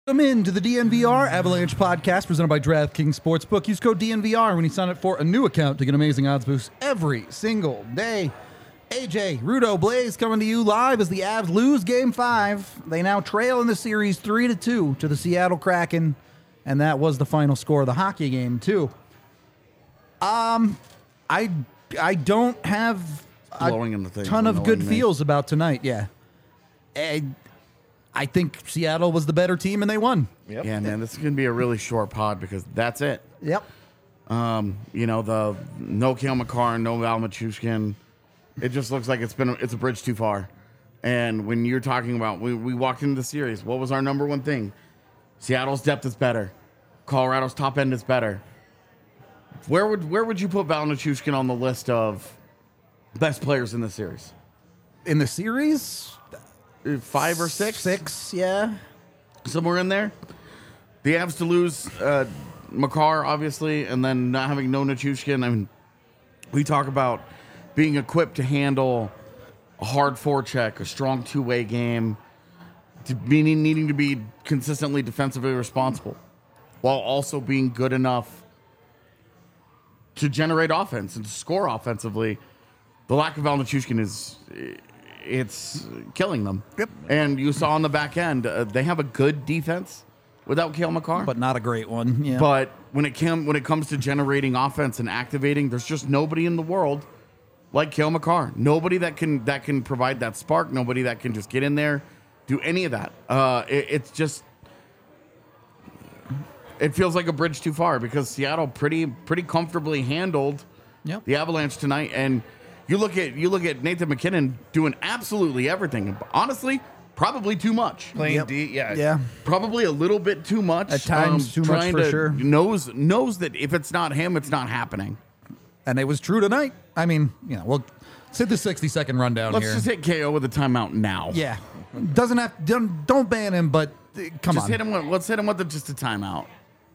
Welcome into the DNVR Avalanche podcast presented by DraftKings Sportsbook. Use code DNVR when you sign up for a new account to get amazing odds boosts every single day. AJ, Rudo, Blaze coming to you live as the Avs lose Game 5. They now trail in the series 3-2 to the Seattle Kraken, and that was the final score of the hockey game too. I don't have a ton of good feels about tonight. Yeah. I think Seattle was the better team, and they won. Yep. Yeah, man, this is going to be a really short pod because that's it. Yep. The no Cale Makar, no Val Machushkin. It just looks like it's a bridge too far. And when you're talking about, we walked into the series, what was our number one thing? Seattle's depth is better. Colorado's top end is better. Where would you put Val Machushkin on the list of best players in the series? In the series? 5 or 6? 6, yeah. Somewhere in there. The Avs to lose Makar, obviously, and then not having no Nichushkin. I mean, we talk about being equipped to handle a hard forecheck, a strong two-way game, needing to be consistently defensively responsible, while also being good enough to generate offense and to score offensively. The lack of Val Nichushkin it's killing them. Yep. And you saw on the back end, they have a good defense without Cale Makar. But not a great one. Yeah. But when it comes to generating offense and activating, there's just nobody in the world like Cale Makar. Nobody that can provide that spark. Nobody that can just get in there, do any of that. It feels like a bridge too far because Seattle pretty comfortably handled the Avalanche tonight. And You look at Nathan MacKinnon doing absolutely everything. Honestly, probably too much. Playing D, yeah. Yeah. Probably a little bit too much. At times, too much for sure. Knows that if it's not him, it's not happening. And it was true tonight. I mean, we'll hit the 60-second rundown Let's here. just hit KO with a timeout now. Yeah. Don't ban him, but come on. Let's hit him with just a timeout.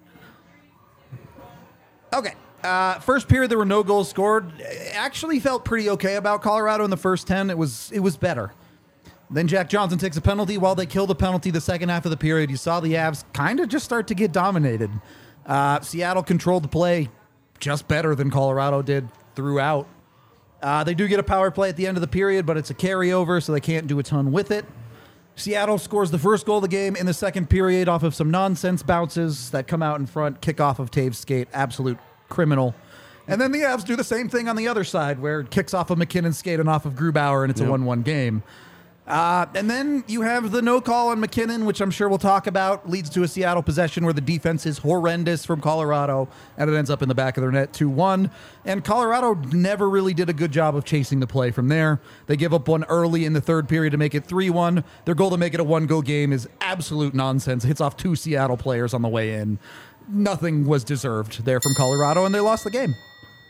Okay. First period, there were no goals scored. Actually felt pretty okay about Colorado in the first 10. It was better. Then Jack Johnson takes a penalty. While they kill the penalty the second half of the period, you saw the Avs kind of just start to get dominated. Seattle controlled the play just better than Colorado did throughout. They do get a power play at the end of the period, but it's a carryover, so they can't do a ton with it. Seattle scores the first goal of the game in the second period off of some nonsense bounces that come out in front, kickoff of Taves' skate, absolute criminal. And then the Avs do the same thing on the other side where it kicks off of McKinnon's skate and off of Grubauer, and it's a 1-1 game. And then you have the no call on McKinnon, which I'm sure we'll talk about, leads to a Seattle possession where the defense is horrendous from Colorado, and it ends up in the back of their net 2-1. And Colorado never really did a good job of chasing the play from there. They give up one early in the third period to make it 3-1. Their goal to make it a one-goal game is absolute nonsense. It hits off 2 Seattle players on the way in. Nothing was deserved there from Colorado, and they lost the game.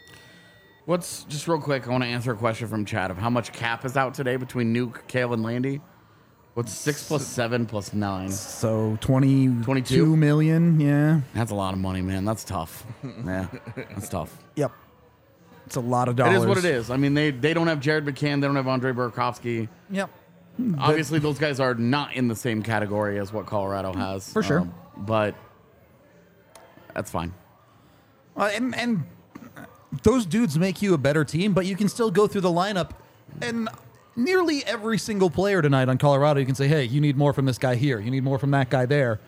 Just real quick, I want to answer a question from Chad of how much cap is out today between Nuke, Cale, and Landy. What's 6 plus 7 plus 9? So 22 million, yeah. That's a lot of money, man. That's tough. Yeah, that's tough. Yep. It's a lot of dollars. It is what it is. I mean, they don't have Jared McCann. They don't have Andre Burakovsky. Yep. Obviously, those guys are not in the same category as what Colorado has. For sure. But that's fine. And those dudes make you a better team, but you can still go through the lineup, and nearly every single player tonight on Colorado, you can say, hey, you need more from this guy here. You need more from that guy there.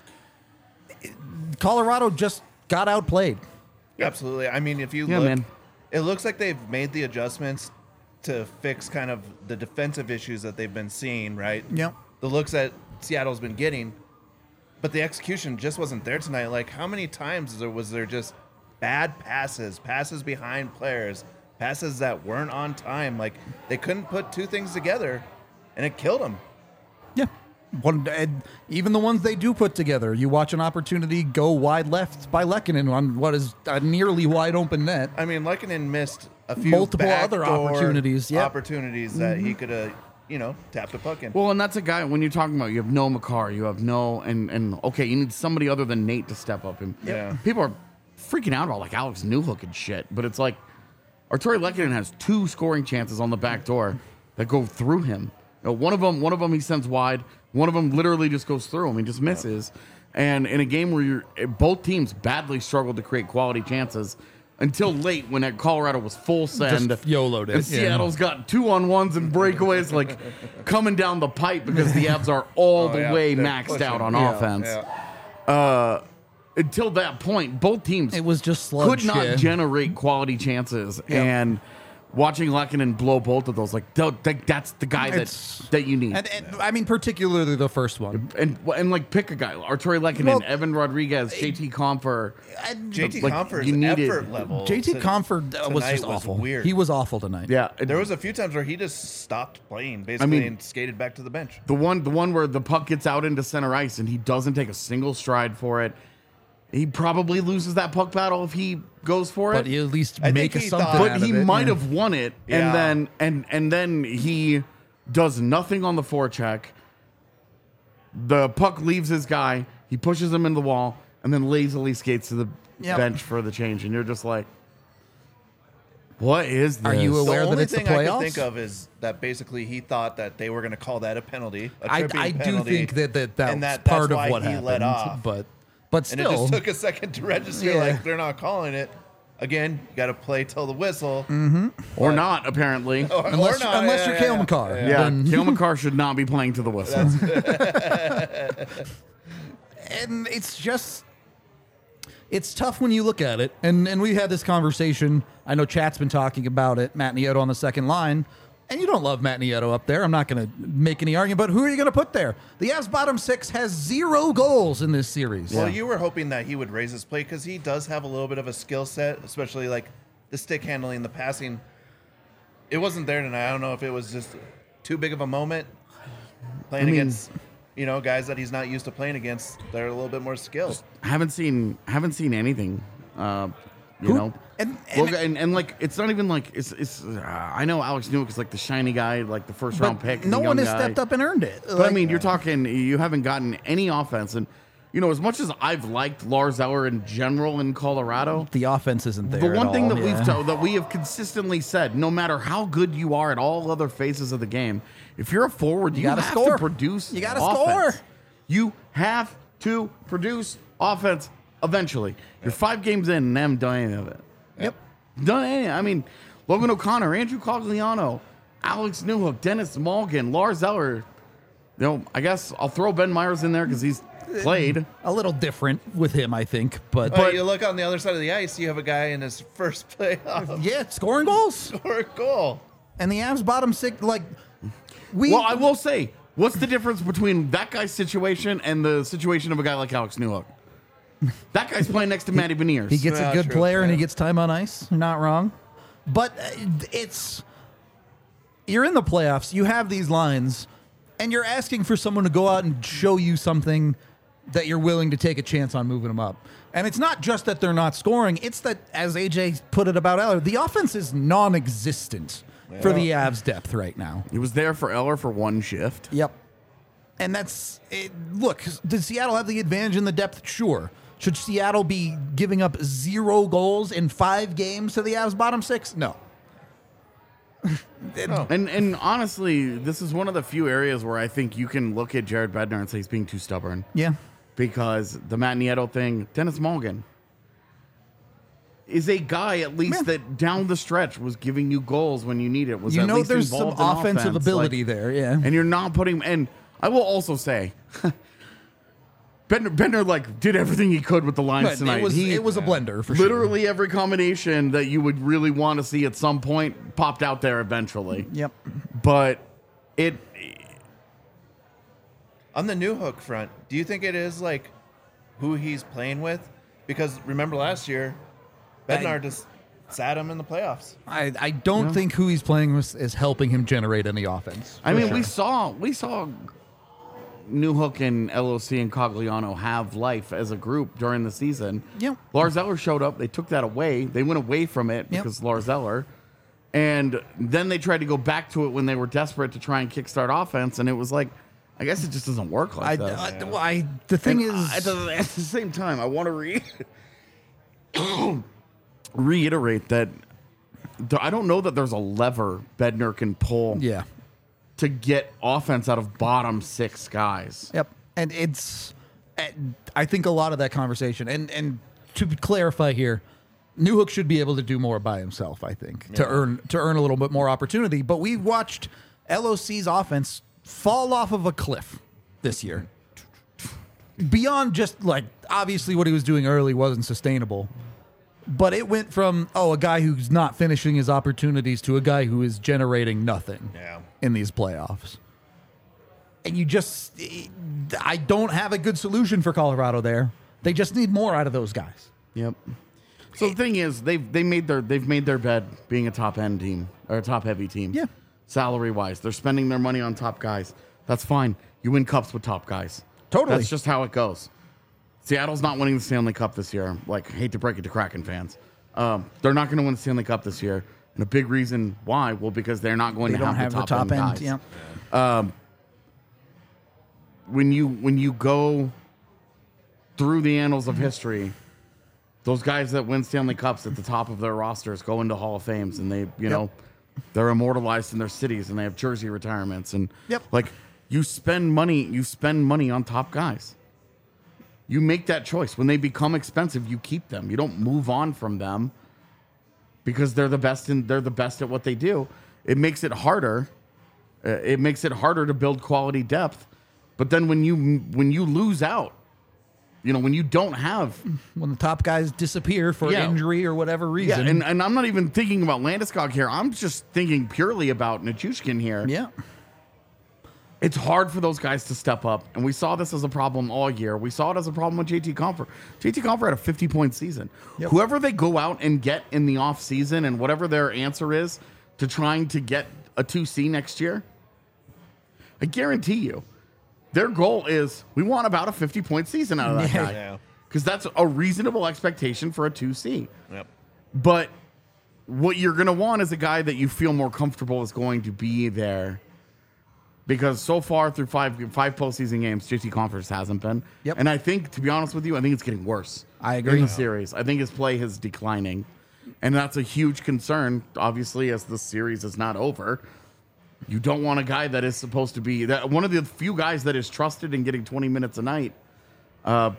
Colorado just got outplayed. Absolutely. I mean, if you look, man. It looks like they've made the adjustments to fix kind of the defensive issues that they've been seeing, right? Yep. The looks that Seattle's been getting, but the execution just wasn't there tonight. Like, how many times was there just bad passes behind players, passes that weren't on time? Like, they couldn't put two things together, and it killed them. Yeah. Even the ones they do put together, you watch an opportunity go wide left by Lehkonen on what is a nearly wide open net. I mean, Lehkonen missed a few multiple other opportunities. Yep. Opportunities that he could have, tapped the puck in. Well, and that's a guy, when you're talking about, you have no Makar, you have no, and okay, you need somebody other than Nate to step up. And people are freaking out about like Alex Newhook and shit, but it's like Artturi Lehkonen has 2 scoring chances on the back door that go through him. One of them he sends wide. One of them literally just goes through him. He just misses. And in a game where both teams badly struggled to create quality chances until late when Colorado was full send. Just YOLO'd it. And Seattle's got 2-on-1s and breakaways like coming down the pipe because the Avs are all the way they're maxed pushing. out on Yeah, offense. yeah. Until that point, both teams It was just sludge. could not yeah. generate quality chances. And watching Lehkonen blow both of those, that's the guy It's- that you need. And I mean, particularly the first one. And like pick a guy, Arturi Lehkonen, Well, Evan Rodriguez, JT Compher. JT Like, Comfort's you needed- effort level. JT Comfort was tonight just awful. Weird. He was awful tonight. Yeah, There was a few times where he just stopped playing, basically, and skated back to the bench. the one where the puck gets out into center ice and he doesn't take a single stride for it. He probably loses that puck battle if he goes for But it. you at least I make think a he something thought- out But of he it, might yeah. have won it, Yeah. and then he does nothing on the forecheck. The puck leaves his guy. He pushes him in the wall, and then lazily skates to the Yep. bench for the change. And you're just like, what is this? Are you The aware that only it's the thing I playoffs? could think of is that basically he thought that they were going to call that a penalty. A I tripping do penalty, think that and was that's part of why what he happened. let off. But And still, it just took a second to register. Yeah. Like they're not calling it. Again, you got to play till the whistle. Or not, apparently. unless you're Cale Makar. Yeah, then- Cale Makar should not be playing to the whistle. and it's tough when you look at it. And we had this conversation. I know Chat's been talking about it. Matt Nieto on the second line. And you don't love Matt Nieto up there. I'm not going to make any argument. But who are you going to put there? The Avs bottom six has 0 goals in this series. Well, you were hoping that he would raise his play because he does have a little bit of a skill set, especially like the stick handling, the passing. It wasn't there tonight. I don't know if it was just too big of a moment playing against, guys that he's not used to playing against. They're a little bit more skilled. haven't seen anything. You know, and like it's not even like it's. I know Alex Newhook is like the shiny guy, like the first round pick. no the one young has guy. stepped up and earned it. But I mean, you're talking. You haven't gotten any offense, and as much as I've liked Lars Eller in general in Colorado, the offense isn't there. the one at thing all. that we have consistently said, no matter how good you are at all other phases of the game, if you're a forward, you gotta have score. to produce. You gotta offense. score. You have to produce offense eventually. You're 5 games in and haven't done any of it. Yep. Done any. I mean, Logan O'Connor, Andrew Cogliano, Alex Newhook, Dennis Malgin, Lars Eller. I guess I'll throw Ben Myers in there because he's played. A little different with him, I think. But But you look on the other side of the ice, you have a guy in his first playoff yeah, scoring goals. score a goal. And the Avs bottom six, Well, I will say, what's the difference between that guy's situation and the situation of a guy like Alex Newhook? That guy's playing next to Matty Beniers. He gets a Yeah, good true, player and he yeah. gets time on ice. You're not wrong. But you're in the playoffs. You have these lines, and you're asking for someone to go out and show you something that you're willing to take a chance on moving them up. And it's not just that they're not scoring. It's that, as AJ put it about Eller, the offense is non-existent for the Avs depth right now. He was there for Eller for 1 shift. Yep. And that's it. Look, does Seattle have the advantage in the depth? Sure. Should Seattle be giving up 0 goals in 5 games to the Avs bottom 6? No. And honestly, this is one of the few areas where I think you can look at Jared Bednar and say he's being too stubborn. Yeah. Because the Matt Nieto thing, Dennis Malgin is a guy at least that down the stretch was giving you goals when you need it. Was You at know least there's some involved in offensive offense. ability there, yeah. And you're not putting. And I will also say, Bednar did everything he could with the lines But tonight. it was a blender for sure. Literally every combination that you would really want to see at some point popped out there eventually. Yep. But it. On the new hook front, do you think it is like who he's playing with? Because remember last year, Bednar just sat him in the playoffs. I don't think who he's playing with is helping him generate any offense. I mean, we saw Newhook and LOC and Cogliano have life as a group during the season. Yep. Lars Eller showed up. They took that away. They went away from it Yep. because Lars Eller. And then they tried to go back to it when they were desperate to try and kickstart offense. And it was like, I guess it just doesn't work like that. The thing And is, at the same time, I want to reiterate that I don't know that there's a lever Bednar can pull yeah. to get offense out of bottom 6 guys. Yep. And it's I think a lot of that conversation, and to clarify here, Newhook should be able to do more by himself, I think, to earn a little bit more opportunity. But we watched LOC's offense fall off of a cliff this year. Beyond just, like, obviously what he was doing early wasn't sustainable. But it went from, a guy who's not finishing his opportunities to a guy who is generating nothing in these playoffs. And I don't have a good solution for Colorado there. They just need more out of those guys. Yep. So the thing is, they've made their bed being a top end team or a top heavy team. Yeah. Salary wise, they're spending their money on top guys. That's fine. You win cups with top guys. Totally. That's just how it goes. Seattle's not winning the Stanley Cup this year. Like, hate to break it to Kraken fans. They're not going to win the Stanley Cup this year. And a big reason why, well, because they're not going to have the top end guys. Yeah. When you go through the annals of history, those guys that win Stanley Cups at the top of their rosters go into Hall of Fames, and they, they're immortalized in their cities, and they have jersey retirements, and like you spend money on top guys. You make that choice. When they become expensive, you keep them. You don't move on from them because they're the best at what they do. It makes it harder. It makes it harder to build quality depth. But then when you lose out, when you don't have... When the top guys disappear for injury or whatever reason. Yeah, and I'm not even thinking about Landeskog here. I'm just thinking purely about Nichushkin here. Yeah. It's hard for those guys to step up, and we saw this as a problem all year. We saw it as a problem with JT Compher. JT Compher had a 50-point season. Yep. Whoever they go out and get in the offseason and whatever their answer is to trying to get a 2C next year, I guarantee you, their goal is we want about a 50-point season out of that guy. Because that's a reasonable expectation for a 2C. Yep. But what you're going to want is a guy that you feel more comfortable is going to be there. Because so far through five postseason games, JT Compher hasn't been. Yep. And I think, to be honest with you, I think it's getting worse. I agree. In the series. I think his play is declining. And that's a huge concern, obviously, as the series is not over. You don't want a guy that is supposed to be one of the few guys that is trusted in getting 20 minutes a night. That's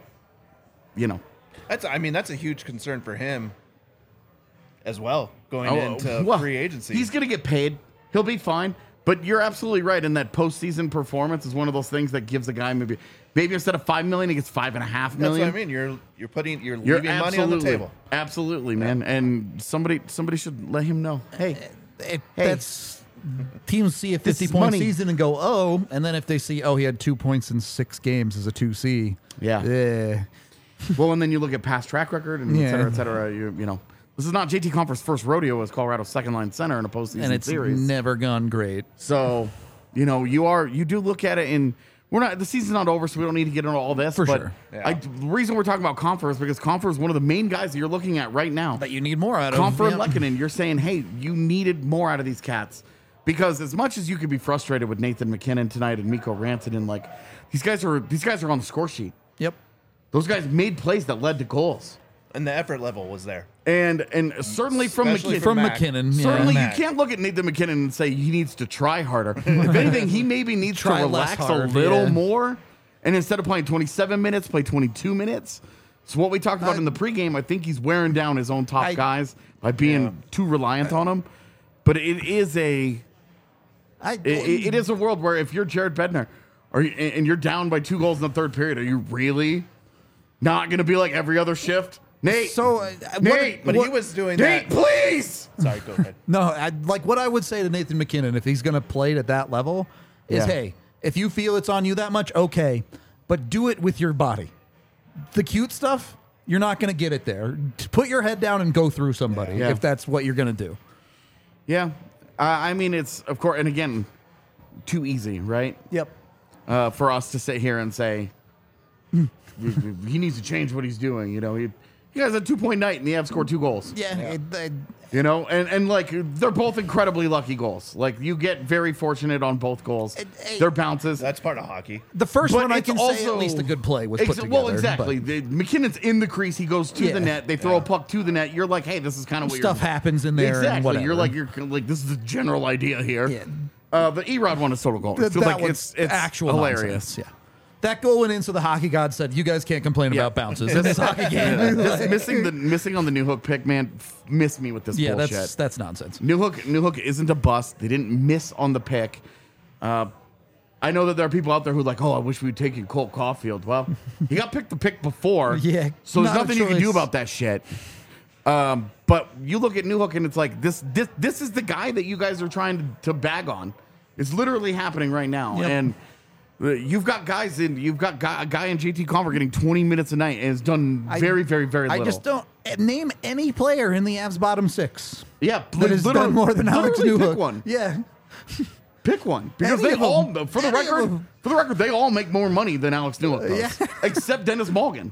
a huge concern for him as well going into free agency. He's going to get paid. He'll be fine. But you're absolutely right in that postseason performance is one of those things that gives a guy maybe instead of $5 million, he gets $5.5 million. That's what I mean. You're leaving money on the table. Absolutely, man. And somebody should let him know. Hey, that's teams see a 50-point season and go, and then if they see, he had 2 points in 6 games as a 2C. Yeah. Well, and then you look at past track record and et cetera, et cetera. This is not JT Compher's first rodeo as Colorado's second-line center in a postseason and it's series. Never gone great. So, you do look at it, and the season's not over, so we don't need to get into all this. For sure. Yeah. The reason we're talking about Compher is because Compher is one of the main guys that you're looking at right now. That you need more out of. Compher and Lehkonen, you're saying, hey, you needed more out of these cats. Because as much as you could be frustrated with Nathan MacKinnon tonight and Mikko Rantanen, like these guys are on the score sheet. Yep. Those guys made plays that led to goals. And the effort level was there. And certainly from MacKinnon. Certainly you can't look at Nathan MacKinnon and say he needs to try harder. If anything, he maybe needs to relax a little more. And instead of playing 27 minutes, play 22 minutes. So what we talked about in the pregame, I think he's wearing down his own top guys by being too reliant on them. But it is it is a world where if you're Jared Bednar and you're down by 2 goals in the third period, are you really not going to be like every other shift? Nate. So, Nate, he was doing Nate, that. Please. Sorry, go ahead. No, what I would say to Nathan MacKinnon, if he's going to play at that level, is, hey, if you feel it's on you that much, okay, but do it with your body. The cute stuff, you're not going to get it there. Put your head down and go through somebody if that's what you're going to do. Yeah. It's, of course, and again, too easy, right? Yep. For us to sit here and say, he needs to change what he's doing. He has a 2-point night and the Avs scored 2 goals. Yeah. And like they're both incredibly lucky goals. Like you get very fortunate on both goals. They're bounces. That's part of hockey. The first one I can say at least a good play was put together. Well, exactly. McKinnon's in the crease. He goes to the net. They throw a puck to the net. You're like, hey, this is kind of what stuff happens in there. Exactly. And whatever. You're like, this is the general idea here. Yeah. The Erod one is total gold. It's actual hilarious. Nonsense. That goal went in, so the hockey god said, "You guys can't complain about bounces in this hockey game." Just missing on the New Hook pick, man. Miss me with this bullshit. that's nonsense. New Hook isn't a bust. They didn't miss on the pick. I know that there are people out there who are like, oh, I wish we'd taken Colt Caulfield. Well, he got picked the pick before. Yeah, so there's not a nothing you can do choice. about that shit. But you look at New Hook and it's like this is the guy that you guys are trying to bag on. It's literally happening right now. Yep. And you've got a guy in JT Conver getting 20 minutes a night and has done very, very, very little. I just don't name any player in the Avs bottom six. Yeah, that has done more than Alex literally Newhook. pick one. Yeah, Pick one because Any they of all, them. for the Any of record, them. they all make more money than Alex Newhook does, Yeah. except Dennis Morgan.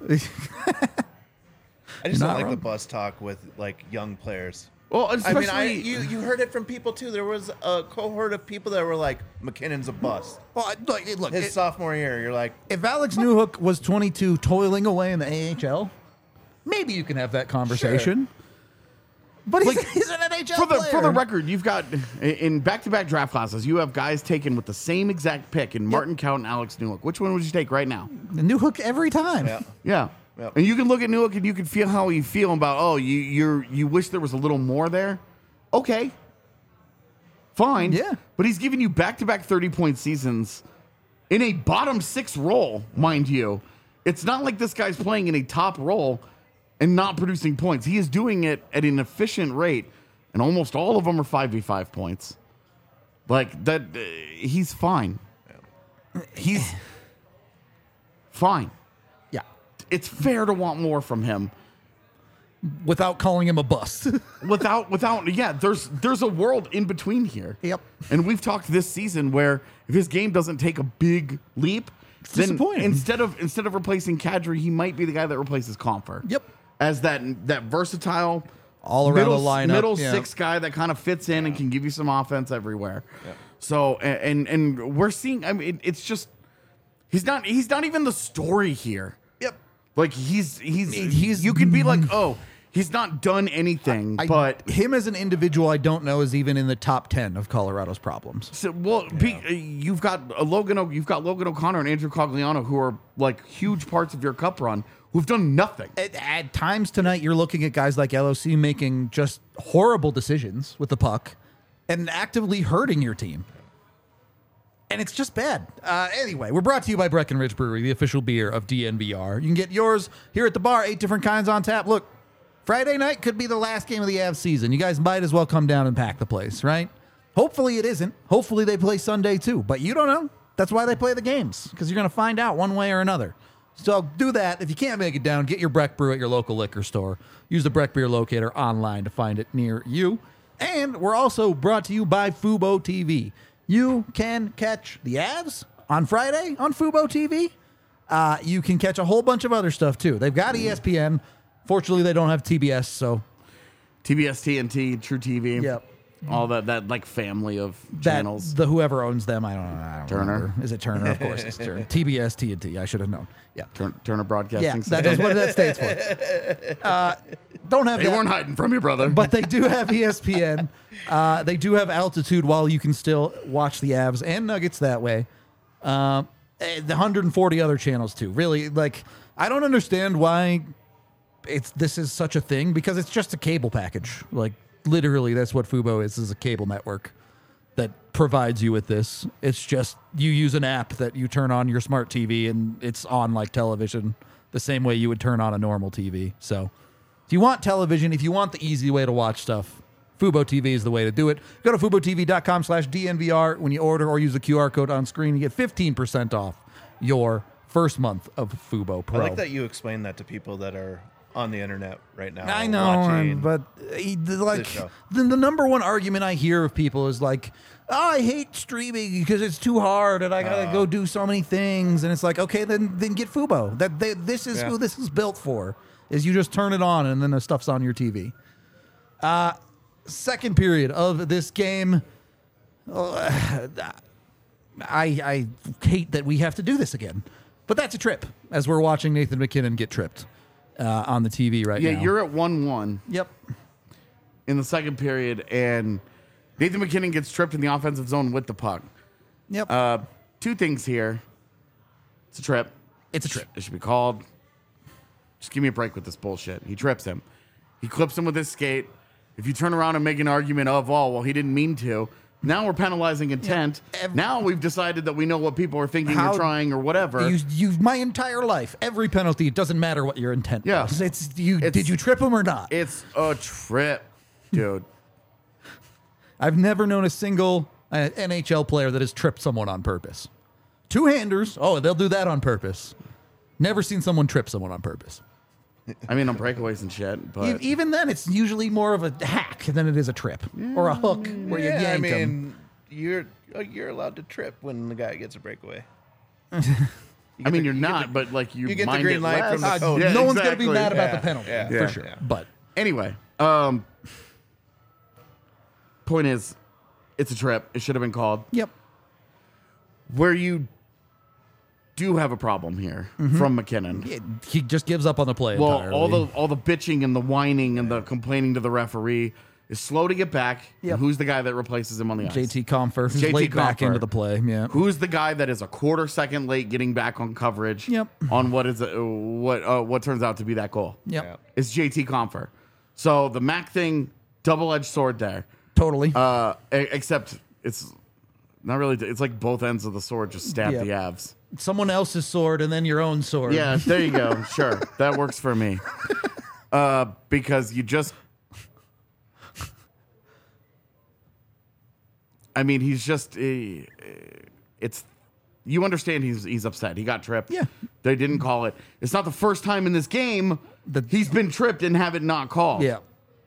I just Not don't like wrong. the bus talk with like young players. Well, I especially mean, you heard it from people too. There was a cohort of people that were like, McKinnon's a bust. well, look, His sophomore year, you're like, if Alex Newhook was 22 toiling away in the AHL, maybe you can have that conversation. But he's an NHL for the player. record, you've got in back-to-back draft classes, you have guys taken with the same exact pick in Martin Count and Alex Newhook. Which one would you take right now? Newhook every time. yeah. Yeah. Yep. And you can look at Newhook and you can feel how you feel about, you wish there was a little more there. Okay. Fine. Yeah. But he's giving you back-to-back 30-point seasons in a bottom six role, mind you. It's not like this guy's playing in a top role and not producing points. He is doing it at an efficient rate, and almost all of them are 5v5 points. Like, that, he's fine. He's fine. Yeah. It's fair to want more from him. Without calling him a bust. There's a world in between here. Yep. And we've talked this season where if his game doesn't take a big leap, then disappointing. instead of replacing Kadri, he might be the guy that replaces Comfer. Yep. As that versatile All around middle, the lineup. middle yeah. six guy that kind of fits in and can give you some offense everywhere. So and we're seeing, I mean, it's just he's not even the story here. Yep. Like he's you could be like, oh, he's not done anything, but him as an individual, I don't know, is even in the top 10 of Colorado's problems. so, you've got Logan O'Connor and Andrew Cogliano, who are like huge parts of your cup run, who've done nothing. At times tonight, you're looking at guys like LOC making just horrible decisions with the puck and actively hurting your team. And it's just bad. Anyway, we're brought to you by Breckenridge Brewery, the official beer of DNVR. You can get yours here at the bar, 8 different kinds on tap. Look, Friday night could be the last game of the Avs season. You guys might as well come down and pack the place, right? Hopefully it isn't. Hopefully they play Sunday too, but you don't know. That's why they play the games, because you're going to find out one way or another. So do that. If you can't make it down, get your Breck Brew at your local liquor store. Use the Breck Beer Locator online to find it near you. And we're also brought to you by Fubo TV. You can catch the Avs on Friday on Fubo TV. You can catch a whole bunch of other stuff too. They've got ESPN. Fortunately, they don't have TBS, so TBS, TNT, True TV, Yep. all that like family of that channels. the whoever owns them, I don't Turner? remember. Is it Turner? Of course, it's Turner. TBS, TNT. I should have known. Yeah. Turner Broadcasting. Yeah, System. that is what that stands for. Don't have They that, weren't hiding from you, brother. but they do have ESPN. They do have Altitude while you can still watch the Avs and Nuggets that way. The 140 other channels too. Really, like, I don't understand why this is such a thing, because it's just a cable package. Like, literally, that's what Fubo is a cable network that provides you with this. It's just you use an app that you turn on your smart TV and it's on like television the same way you would turn on a normal TV. So if you want television, if you want the easy way to watch stuff, Fubo TV is the way to do it. Go to FuboTV.com/DNVR when you order, or use the QR code on screen. You get 15% off your first month of Fubo Pro. I like that you explained that to people that are on the internet right now. I know, watching but like show. the number one argument I hear of people is like, oh, I hate streaming because it's too hard and I gotta go do so many things. And it's like, okay, then get Fubo. This is who this is built for. Is you just turn it on and then the stuff's on your TV. Second period of this game. I hate that we have to do this again, but that's a trip as we're watching Nathan McKinnon get tripped on the TV right now. yeah, you're at 1-1 Yep. in the second period, and Nathan McKinnon gets tripped in the offensive zone with the puck. Yep. Two things here. It's a trip. It's a trip. It should be called. Just give me a break with this bullshit. He trips him. He clips him with his skate. If you turn around and make an argument of, oh, well, he didn't mean to, now we're penalizing intent. Now we've decided that we know what people are thinking or trying or whatever. My entire life, every penalty, it doesn't matter what your intent was. Did you trip him or not? It's a trip, dude. I've never known a single NHL player that has tripped someone on purpose. Two-handers, they'll do that on purpose. Never seen someone trip someone on purpose. I mean, on breakaways and shit, but even then, it's usually more of a hack than it is a trip or a hook where you yank him. You're allowed to trip when the guy gets a breakaway. I mean, you're not, but like you get the mind green it light less. from the coach. Yeah, no one's going to be exactly. mad about the penalty, for sure. Yeah. But Anyway, point is, it's a trip. It should have been called. yep. Where you do have a problem here from McKinnon. He just gives up on the play Well, entirely. all the bitching and the whining and the complaining to the referee is slow to get back. Yep. And who's the guy that replaces him on the ice? JT Compher, who's JT late back Compher. into the play. Yeah. Who's the guy that is a quarter second late getting back on coverage? Yep. On what turns out to be that goal? Yep. Yeah. It's JT Compher. So the Mac thing, double-edged sword there. Totally. Except it's not really. It's like both ends of the sword just stab Yep. the Avs. Someone else's sword and then your own sword. Yeah, there you go. Sure, that works for me. Because you just, I mean, he's just, it's, you understand he's upset. He got tripped. Yeah. They didn't call it. It's not the first time in this game he's been tripped and have it not called. Yeah.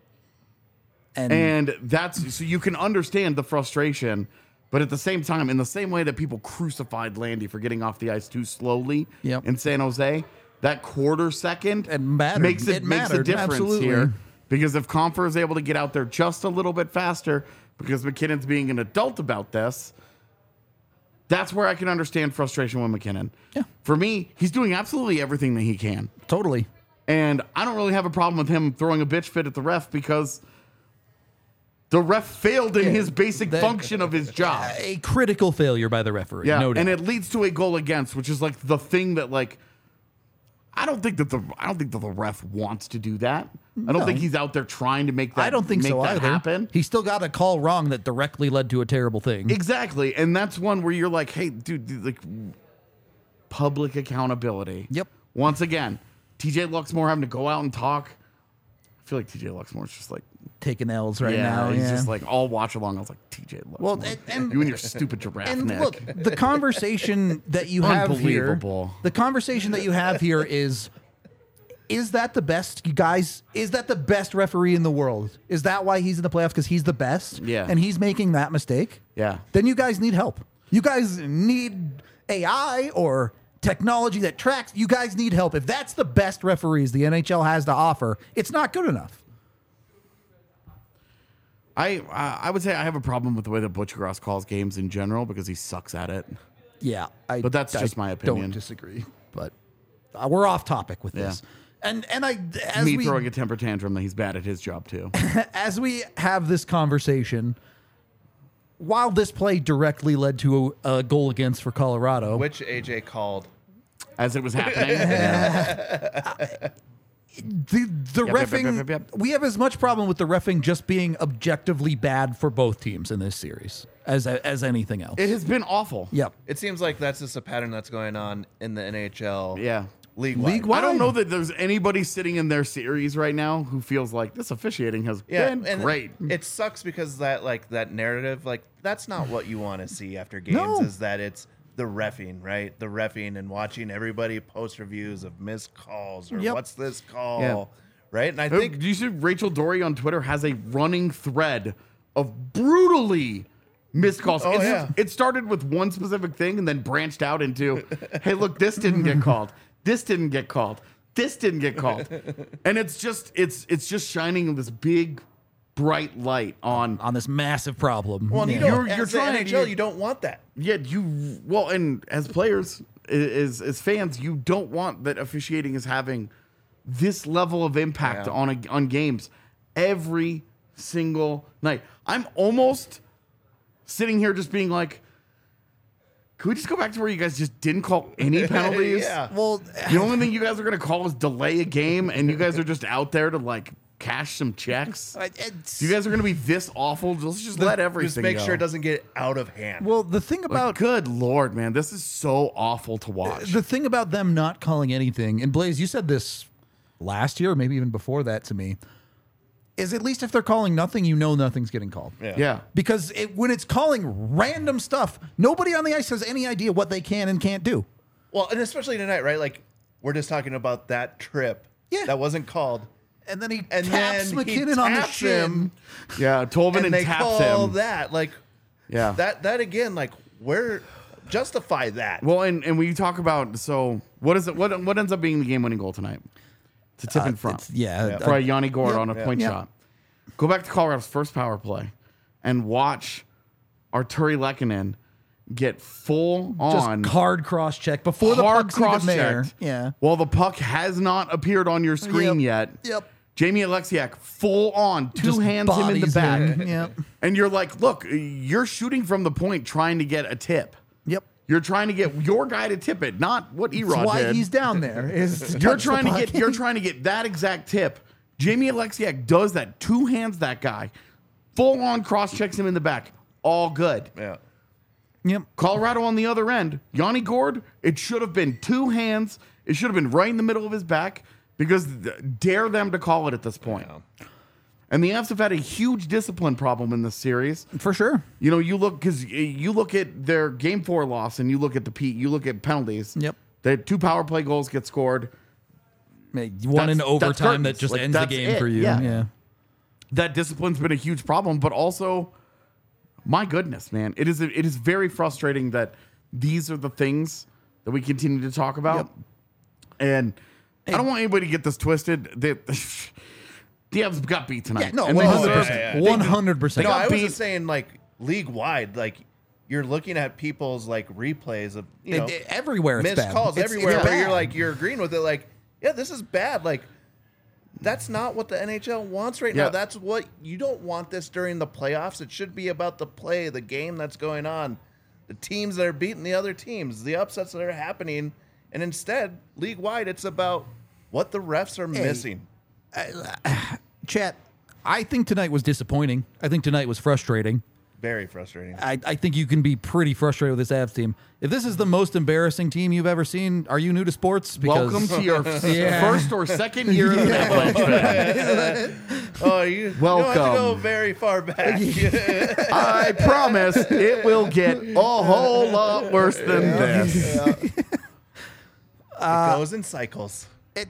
And that's, so you can understand the frustration. But at the same time, in the same way that people crucified Landy for getting off the ice too slowly Yep. in San Jose, that quarter second It mattered. makes It makes a mattered, difference absolutely. here. Because if Compher is able to get out there just a little bit faster, because McKinnon's being an adult about this, that's where I can understand frustration with McKinnon. Yeah. For me, he's doing absolutely everything that he can. Totally. And I don't really have a problem with him throwing a bitch fit at the ref because the ref failed in his basic function of his job. A critical failure by the referee. Yeah, No doubt. and it leads to a goal against, which is like the thing that like I don't think that the ref wants to do that. I don't No. think he's out there trying to make that. I don't think make so that either. happen. He still got a call wrong that directly led to a terrible thing. Exactly, and that's one where you're like, hey, dude, like public accountability. Yep. Once again, TJ Luxmore having to go out and talk. I feel like TJ Luxmore's just like Taking L's right now. he's yeah. just like all watch along. I was like, TJ Luxmore, Well, and- you and your stupid giraffe And neck. look, the conversation that you have here, Unbelievable. the conversation that you have here is that the best, you guys? Is that the best referee in the world? Is that why he's in the playoffs? Because he's the best? Yeah. And he's making that mistake? Yeah. Then you guys need help. You guys need AI or technology that tracks. You guys need help. If that's the best referees the NHL has to offer, it's not good enough. I would say I have a problem with the way that Butch Gross calls games in general because he sucks at it. Yeah. But that's just my opinion. Don't disagree. But we're off topic with this. And as Me we throwing a temper tantrum that he's bad at his job too. as we have this conversation, while this play directly led to a goal against for Colorado, Which AJ called. As it was happening. the Yep, reffing, yep. we have as much problem with the reffing just being objectively bad for both teams in this series as anything else. It has been awful. Yep. It seems like that's just a pattern that's going on in the NHL. Yeah. League-wide. I don't know that there's anybody sitting in their series right now who feels like this officiating has been and great. It sucks because that narrative, like that's not what you want to see after games. No. Is that it's the reffing, right? The reffing and watching everybody post reviews of missed calls or Yep. what's this call, Yeah. right? And I Do think you see Rachel Dory on Twitter has a running thread of brutally missed calls. Oh, yeah. It started with one specific thing and then branched out into, hey, look, this didn't get called. This didn't get called. This didn't get called. And it's just shining this big bright light on on this massive problem. well, Yeah. you don't, You're as the trying- NHL, you don't want that. yeah, and as players, as fans, you don't want that officiating is having this level of impact Yeah. on games every single night. I'm almost sitting here just being like, Can we just go back to where you guys just didn't call any penalties? Yeah. Well, The only thing you guys are going to call is delay a game, and you guys are just out there to like cash some checks. You guys are going to be this awful. Let's just let everything Just make go. sure it doesn't get out of hand. well, the thing Like, about good Lord, man, this is so awful to watch. the thing about them not calling anything, and Blaze, you said this last year, or maybe even before that to me, is at least if they're calling nothing, you know nothing's getting called. Yeah. Because when it's calling random stuff, nobody on the ice has any idea what they can and can't do. Well, and especially tonight, right? Like, we're just talking about that trip Yeah. that wasn't called. And then he And taps then he McKinnon on the taps shin. him. Yeah, Tolvin And and they taps call him. that. Like, Yeah. that again, like, where justify that. Well, and when you talk about, so what is it? What ends up being the game-winning goal tonight? It's a tip in front. For Yanni Gord on a point shot. Go back to Colorado's first power play and watch Arturi Lehkonen get full on just hard cross check before the hard puck's even cross there. checked. Yeah. While the puck has not appeared on your screen yet. Yep. Jamie Alexiak full on, two Just hands him in the bodies back. him. Yep. And you're like, look, you're shooting from the point trying to get a tip. Yep. You're trying to get your guy to tip it, not what Erod That's why did. he's down there. Is to You're touch the trying to puck. get you're trying to get that exact tip. Jamie Alexiak does that. Two hands that guy. Full on cross checks him in the back. All good. Yeah. Yep. Colorado on the other end. Yanni Gord, it should have been two hands. It should have been right in the middle of his back because dare them to call it at this point. Yeah. And the Avs have had a huge discipline problem in this series. For sure. You know, you look at their Game 4 loss and you look at you look at penalties. Yep. The 2 power play goals get scored. One in That's overtime that curtains. just Like, ends the that's game it. for you. Yeah. Yeah. That discipline's been a huge problem, but also, my goodness, man, it is very frustrating that these are the things that we continue to talk about. Yep. And I don't want anybody to get this twisted. The Avs got beat tonight. Yeah, no, And they 100%. deserve- yeah. 100%. No, I was beat. just saying, like, league wide, like, you're looking at people's like replays of Everywhere it's missed bad. calls It's everywhere where bad. you're agreeing with it. Like, yeah, this is bad. Like, that's not what the NHL wants right Yeah. now. That's what you don't want this during the playoffs. It should be about the play, the game that's going on, the teams that are beating the other teams, the upsets that are happening, and instead, league wide, it's about what the refs are missing. Chat, I think tonight was disappointing. I think tonight was frustrating. Very frustrating. I think you can be pretty frustrated with this Avs team. If this is the most embarrassing team you've ever seen, are you new to sports? Welcome to your Yeah. first or second year as an Avalanche fan. Oh, you don't have to Welcome. go very far back. I promise it will get a whole lot worse than this. It goes in cycles.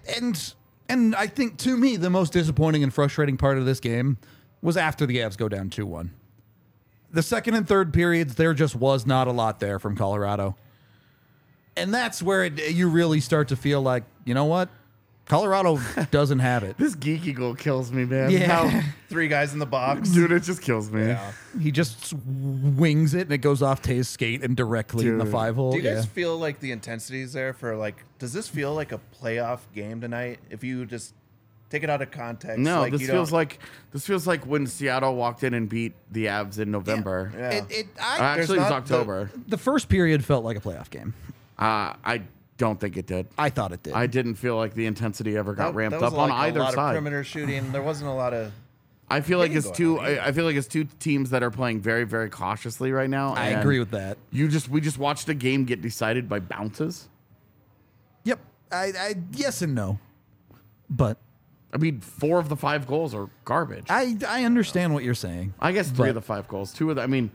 And I think, to me, the most disappointing and frustrating part of this game was after the Avs go down 2-1. The second and third periods, there just was not a lot there from Colorado. And that's where you really start to feel like, you know what? Colorado doesn't have it. This geeky goal kills me, man. Yeah. How- 3 guys in the box. dude, it just kills me. Yeah. He just wings it, and it goes off Tay's skate and directly in the Dude. 5-hole. Do you guys Yeah. feel like the intensity's there for like? Does this feel like a playoff game tonight? If you just take it out of context, No, like this you feels don't- like when Seattle walked in and beat the Avs in November. Yeah. Actually, it was not the- October. The first period felt like a playoff game. I don't think it did. I thought it did. I didn't feel like the intensity ever got ramped was up on like either a lot side. Of perimeter shooting. There wasn't a lot of. I feel like it's Getting two. going on either. I feel like it's two teams that are playing very, very cautiously right now. I and agree with that. We just watched a game get decided by bounces. Yep. I yes and no. But I mean, 4 of the 5 goals are garbage. I understand what you're saying. I guess 3 but- of the 5 goals. 2 of the. I mean,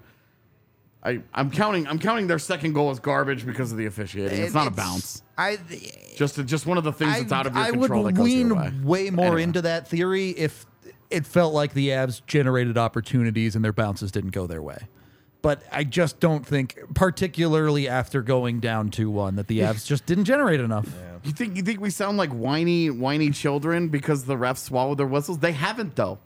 I'm counting their second goal as garbage because of the officiating. It's not a bounce. Just one of the things that's out of your I control would that goes your lean way. way more Anyway. into that theory if it felt like the Avs generated opportunities and their bounces didn't go their way. But I just don't think, particularly after going down 2-1, that the Avs just didn't generate enough. You think we sound like whiny children because the refs swallowed their whistles? They haven't though.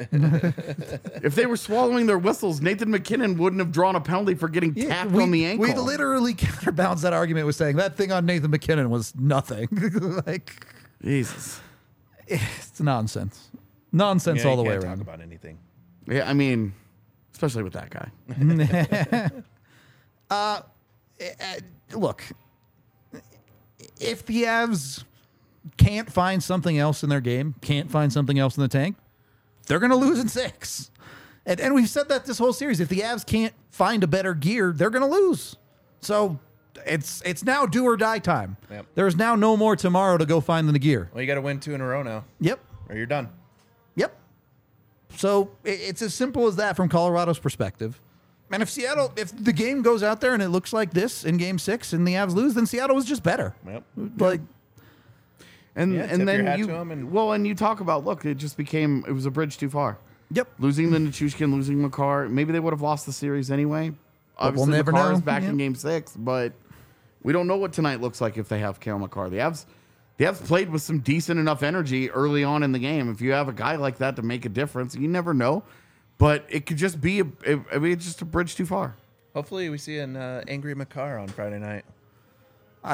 If they were swallowing their whistles, Nathan McKinnon wouldn't have drawn a penalty for getting tapped on the ankle. We literally counterbalanced that argument with saying that thing on Nathan McKinnon was nothing. Like, Jesus. it's nonsense. Nonsense Yeah, all the you way can't around. Talk about anything. Yeah, I mean, especially with that guy. look, if the Avs can't find something else in their game, can't find something else in the tank, they're going to lose in 6. And we've said that this whole series. If the Avs can't find a better gear, they're going to lose. So it's now do or die time. Yep. There's now no more tomorrow to go find the gear. Well, you got to win 2 in a row now, Yep. or you're done. Yep. So it's as simple as that from Colorado's perspective. And if the game goes out there and it looks like this in Game 6 and the Avs lose, then Seattle was just better. Yep. Like, And Yeah, tip and your then hat you to 'em and- and you talk about it was a bridge too far. yep. Losing the Nichushkin, losing Makar, maybe they would have lost the series anyway. But we'll Obviously, never Makar know. is back Yeah. in Game 6, but we don't know what tonight looks like if they have Kale Makar. The Avs played with some decent enough energy early on in the game. If you have a guy like that to make a difference, you never know. But it could just be it's just a bridge too far. Hopefully, we see an angry Makar on Friday night. I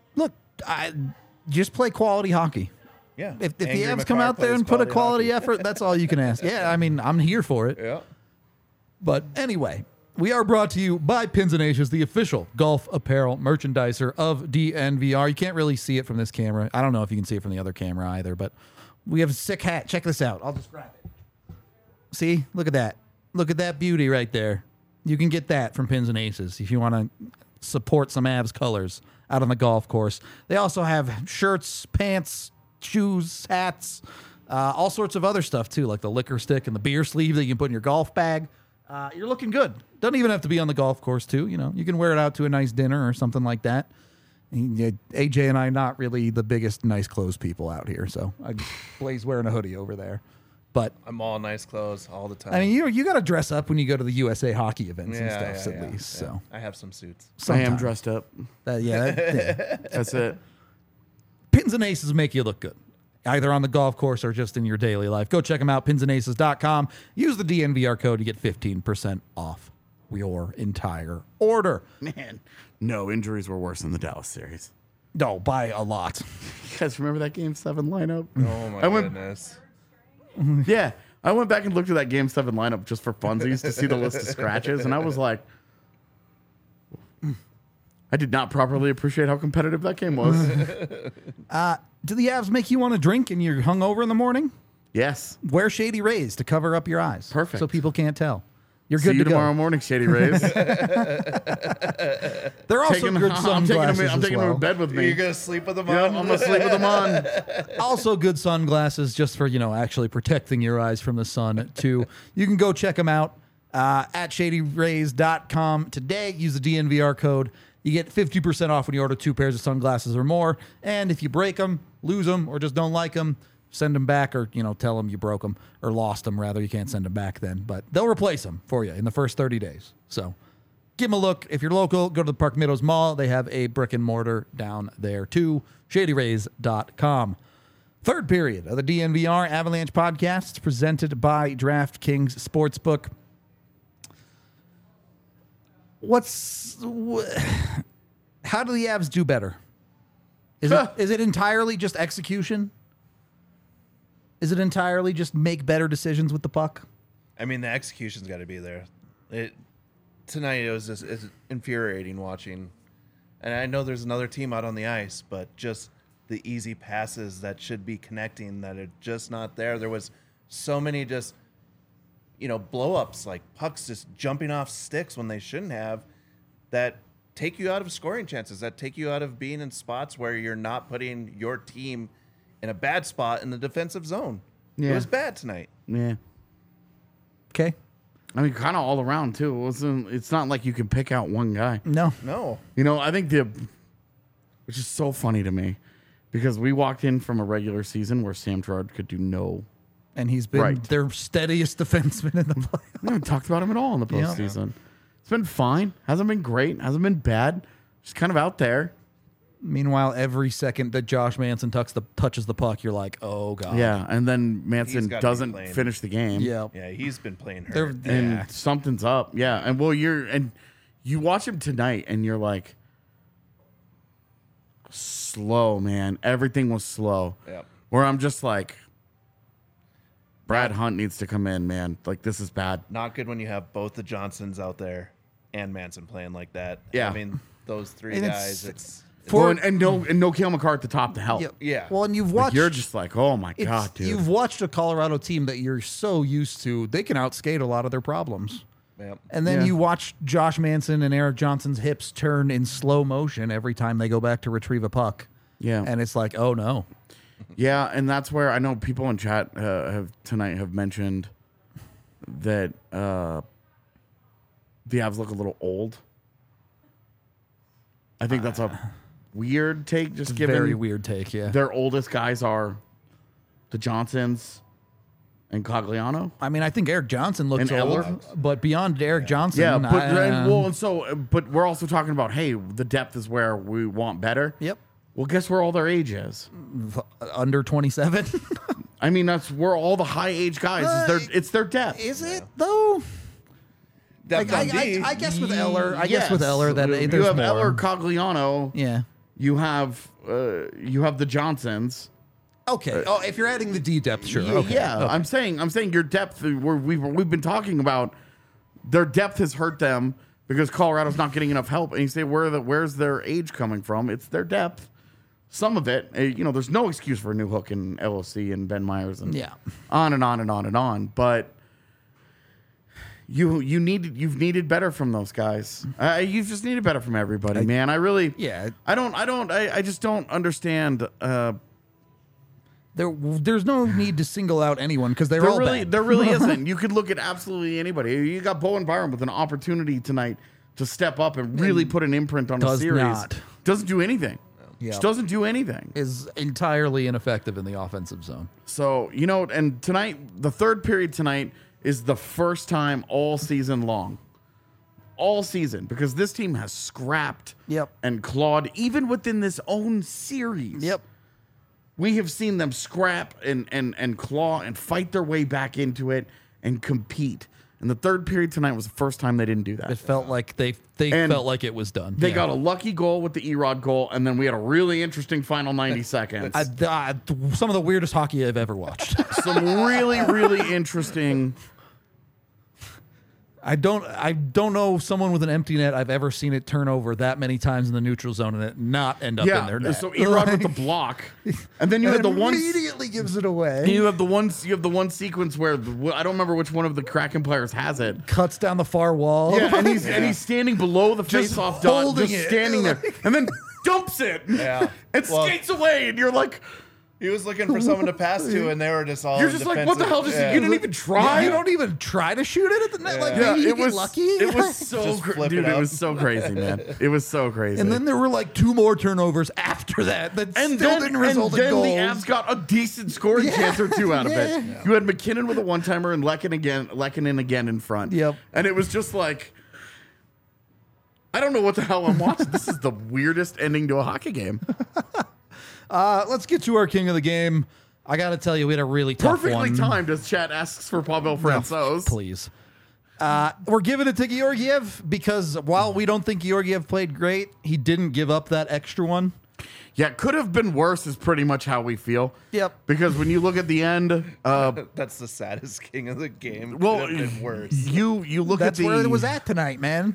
just play quality hockey. Yeah. If the Angry Avs come Makar out there plays and put a quality hockey. effort, that's all you can ask. Yeah, I mean, I'm here for it. Yeah. But anyway, we are brought to you by Pins and Aces, the official golf apparel merchandiser of DNVR. You can't really see it from this camera. I don't know if you can see it from the other camera either, but we have a sick hat. Check this out. I'll just grab it. See? Look at that. Look at that beauty right there. You can get that from Pins and Aces if you want to support some Avs colors out on the golf course. They also have shirts, pants, shoes, hats, all sorts of other stuff too, like the liquor stick and the beer sleeve that you can put in your golf bag. You're looking good. Doesn't even have to be on the golf course too. You know, you can wear it out to a nice dinner or something like that. And, AJ and I not really the biggest nice clothes people out here, so Blaze wearing a hoodie over there. But I'm all nice clothes all the time. I mean, you got to dress up when you go to the USA hockey events and Yeah, stuff, yeah, at yeah, least. yeah. So I have some suits. I am sometime. dressed up. Yeah. That's it. Pins and Aces make you look good, either on the golf course or just in your daily life. Go check them out, pinsandaces.com. Use the DNVR code to get 15% off your entire order. Man, no injuries were worse than the Dallas series. No, by a lot. You guys remember that Game 7 lineup? Oh my I went- goodness. Yeah. I went back and looked at that Game 7 lineup just for funsies to see the list of scratches, and I was like, I did not properly appreciate how competitive that game was. Do the Avs make you want to drink and you're hungover in the morning? Yes. Wear Shady Rays to cover up your eyes. Perfect. So people can't tell. You're See good you to tomorrow go. morning, Shady Rays. They're also good I'm sunglasses taking them as to well. bed with me. You're gonna sleep with them Yeah, on? I'm gonna sleep with them on. Also good sunglasses just for, actually protecting your eyes from the sun, too. You can go check them out at shadyrays.com today. Use the DNVR code. You get 50% off when you order 2 pairs of sunglasses or more. And if you break them, lose them, or just don't like them, send them back or, tell them you broke them or lost them, rather. You can't send them back then. But they'll replace them for you in the first 30 days. So give them a look. If you're local, go to the Park Meadows Mall. They have a brick and mortar down there, too. shadyrays.com. Third period of the DNVR Avalanche podcast presented by DraftKings Sportsbook. How do the Avs do better? Is it entirely just execution? Is it entirely just make better decisions with the puck? I mean, the execution's got to be there. Tonight it was just it's infuriating watching, and I know there's another team out on the ice, but just the easy passes that should be connecting that are just not there. There was so many just blow ups, like pucks just jumping off sticks when they shouldn't have, that take you out of scoring chances, that take you out of being in spots where you're not putting your team in a bad spot in the defensive zone. Yeah. It was bad tonight. Yeah. Okay. I mean, kind of all around, too. It's not like you can pick out one guy. No. No. I think which is so funny to me, because we walked in from a regular season where Sam Girard could do no. And he's been Right. their steadiest defenseman in the playoffs. We haven't talked about him at all in the Yeah. postseason. It's been fine. Hasn't been great. Hasn't been bad. Just kind of out there. Meanwhile, every second that Josh Manson touches the puck, you're like, oh, God. Yeah. And then Manson He's gotta be doesn't playing. finish the game. Yeah. Yeah, he's been playing They're- hurt. And Yeah. something's up. Yeah. And you watch him tonight and you're like, slow, man. Everything was slow. Yep. Where I'm just like, Brad Hunt needs to come in, man. Like, this is bad. Not good when you have both the Johnsons out there and Manson playing like that. Yeah. I mean, those three And guys. It's Well, and no Cale Makar at the top to help. yeah. Well, and you've Like, watched. you're just like, oh my it's- god, dude. You've watched a Colorado team that you're so used to. They can outskate a lot of their problems. Yep. And then Yeah. you watch Josh Manson and Eric Johnson's hips turn in slow motion every time they go back to retrieve a puck. Yeah. And it's like, oh no. Yeah, and that's where I know people in chat have mentioned that the Avs look a little old. I think that's a weird take, just given Very weird take, yeah. their oldest guys are the Johnsons and Cogliano. I mean, I think Eric Johnson looks And old, Eller? but beyond Eric Johnson, Yeah, but I- but we're also talking about, hey, the depth is where we want better. Yep. Well, guess where all their age is? Under 27. I mean, that's where all the high age guys it's their depth. Is it though? Depth on D. I guess with Eller, Yes. that you there's have more. Eller, Cogliano. Yeah. You have the Johnsons. Okay. Oh, if you're adding the D depth, sure. Okay. Yeah, Okay. I'm saying your depth. We've been talking about their depth has hurt them because Colorado's not getting enough help. And you say where's their age coming from? It's their depth. Some of it, there's no excuse for a new hook in LOC and Ben Myers and Yeah. on and on and on and on. But you've needed better from those guys. You've just needed better from everybody, man. Yeah. I just don't understand. There's no need to single out anyone because they're There all really, bad. there really isn't. You could look at absolutely anybody. You got Bowen Byram with an opportunity tonight to step up and really put an imprint on the does series. not. Doesn't do anything. Yeah. Just doesn't do anything. Is entirely ineffective in the offensive zone. So, and tonight, the third period tonight is the first time all season long. All season, because this team has scrapped Yep. and clawed, even within this own series. Yep. We have seen them scrap and claw and fight their way back into it and compete. And the third period tonight was the first time they didn't do that. It felt like they And felt like it was done. They Yeah. got a lucky goal with the Erod goal, and then we had a really interesting final 90 seconds. Some of the weirdest hockey I've ever watched. Some really, really interesting. I don't know someone with an empty net I've ever seen it turn over that many times in the neutral zone and it not end up in their net. So Erod with the block, and then you had the one. immediately gives it away. You have the one sequence where I don't remember which one of the Kraken players has it. Cuts down the far wall. Yeah, and he's standing below the face-off dot, holding just it. standing there, and then dumps it. Yeah. and Well- skates away, and you're like, He was looking for someone to pass to, and they were just all. you're just like, what the hell? Just you didn't even try. You don't even try to shoot it at the net. Like Yeah, maybe you it get was lucky. It was so Just flip dude. it It up. was so crazy, man. It was so crazy. And then there were like 2 more turnovers after that still didn't result in goals. the Avs got a decent scoring chance or two out of it. Yeah. You had McKinnon with a one-timer and Lehkonen again in front. Yep. And it was just like, I don't know what the hell I'm watching. This is the weirdest ending to a hockey game. Let's get to our king of the game. I got to tell you, we had a really tough Perfectly one. timed as chat asks for Pavel Francouz. Please. We're giving it to Georgiev because while we don't think Georgiev played great, he didn't give up that extra one. Yeah, could have been worse is pretty much how we feel. Yep. Because when you look at the end, That's the saddest king of the game. well, Could have been worse. you look That's at the where it was at tonight, man.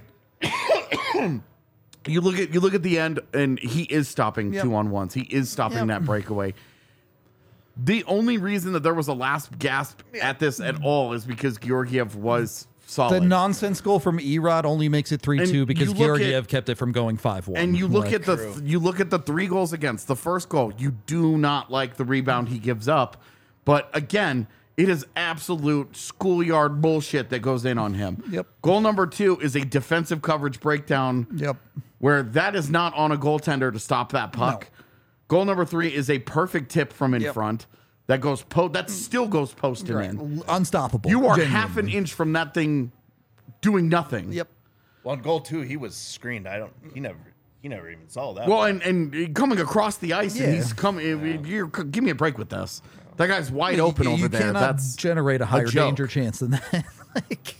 You look at the end, and he is stopping Yep. 2-on-1s. He is stopping Yep. that breakaway. The only reason that there was a last gasp at this at all is because Georgiev was solid. The nonsense goal from Erod only makes it 3-2 And because you look Georgiev at- kept it from going 5-1. and you look Like, at the 3 goals against. The first goal, you do not like the rebound he gives up, but again, it is absolute schoolyard bullshit that goes in on him. Yep. Goal number 2 is a defensive coverage breakdown. Yep. Where that is not on a goaltender to stop that puck. No. Goal number 3 is a perfect tip from in Yep. front that goes that still goes post and in. Unstoppable. You are Genuinely. half an inch from that thing doing nothing. Yep. Well, on goal 2, he was screened. He never even saw that. Well, and coming across the ice, and Yeah. he's coming. Give me a break with this. That guy's wide open over there. Cannot That's generate a higher joke. danger chance than that. Like,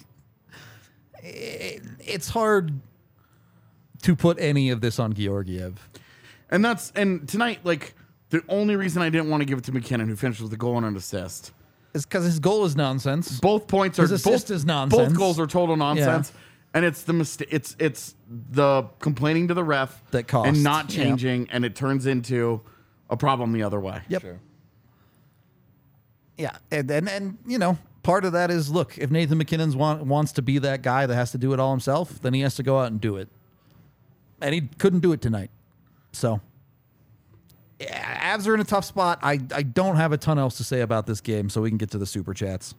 it's hard to put any of this on Georgiev. and tonight, like the only reason I didn't want to give it to McKinnon, who finished with the goal and an assist. It's because his goal is nonsense. Both points are His assist both, is nonsense. Both goals are total nonsense. And it's the mistake. It's the complaining to the ref That cost. and not Yeah. changing, and it turns into a problem the other way. Yep. Sure. Yeah, and you know, part of that is, look, if Nathan McKinnon wants to be that guy that has to do it all himself, then he has to go out and do it. And he couldn't do it tonight. So, yeah, Avs are in a tough spot. I don't have a ton else to say about this game, so we can get to the Super Chats.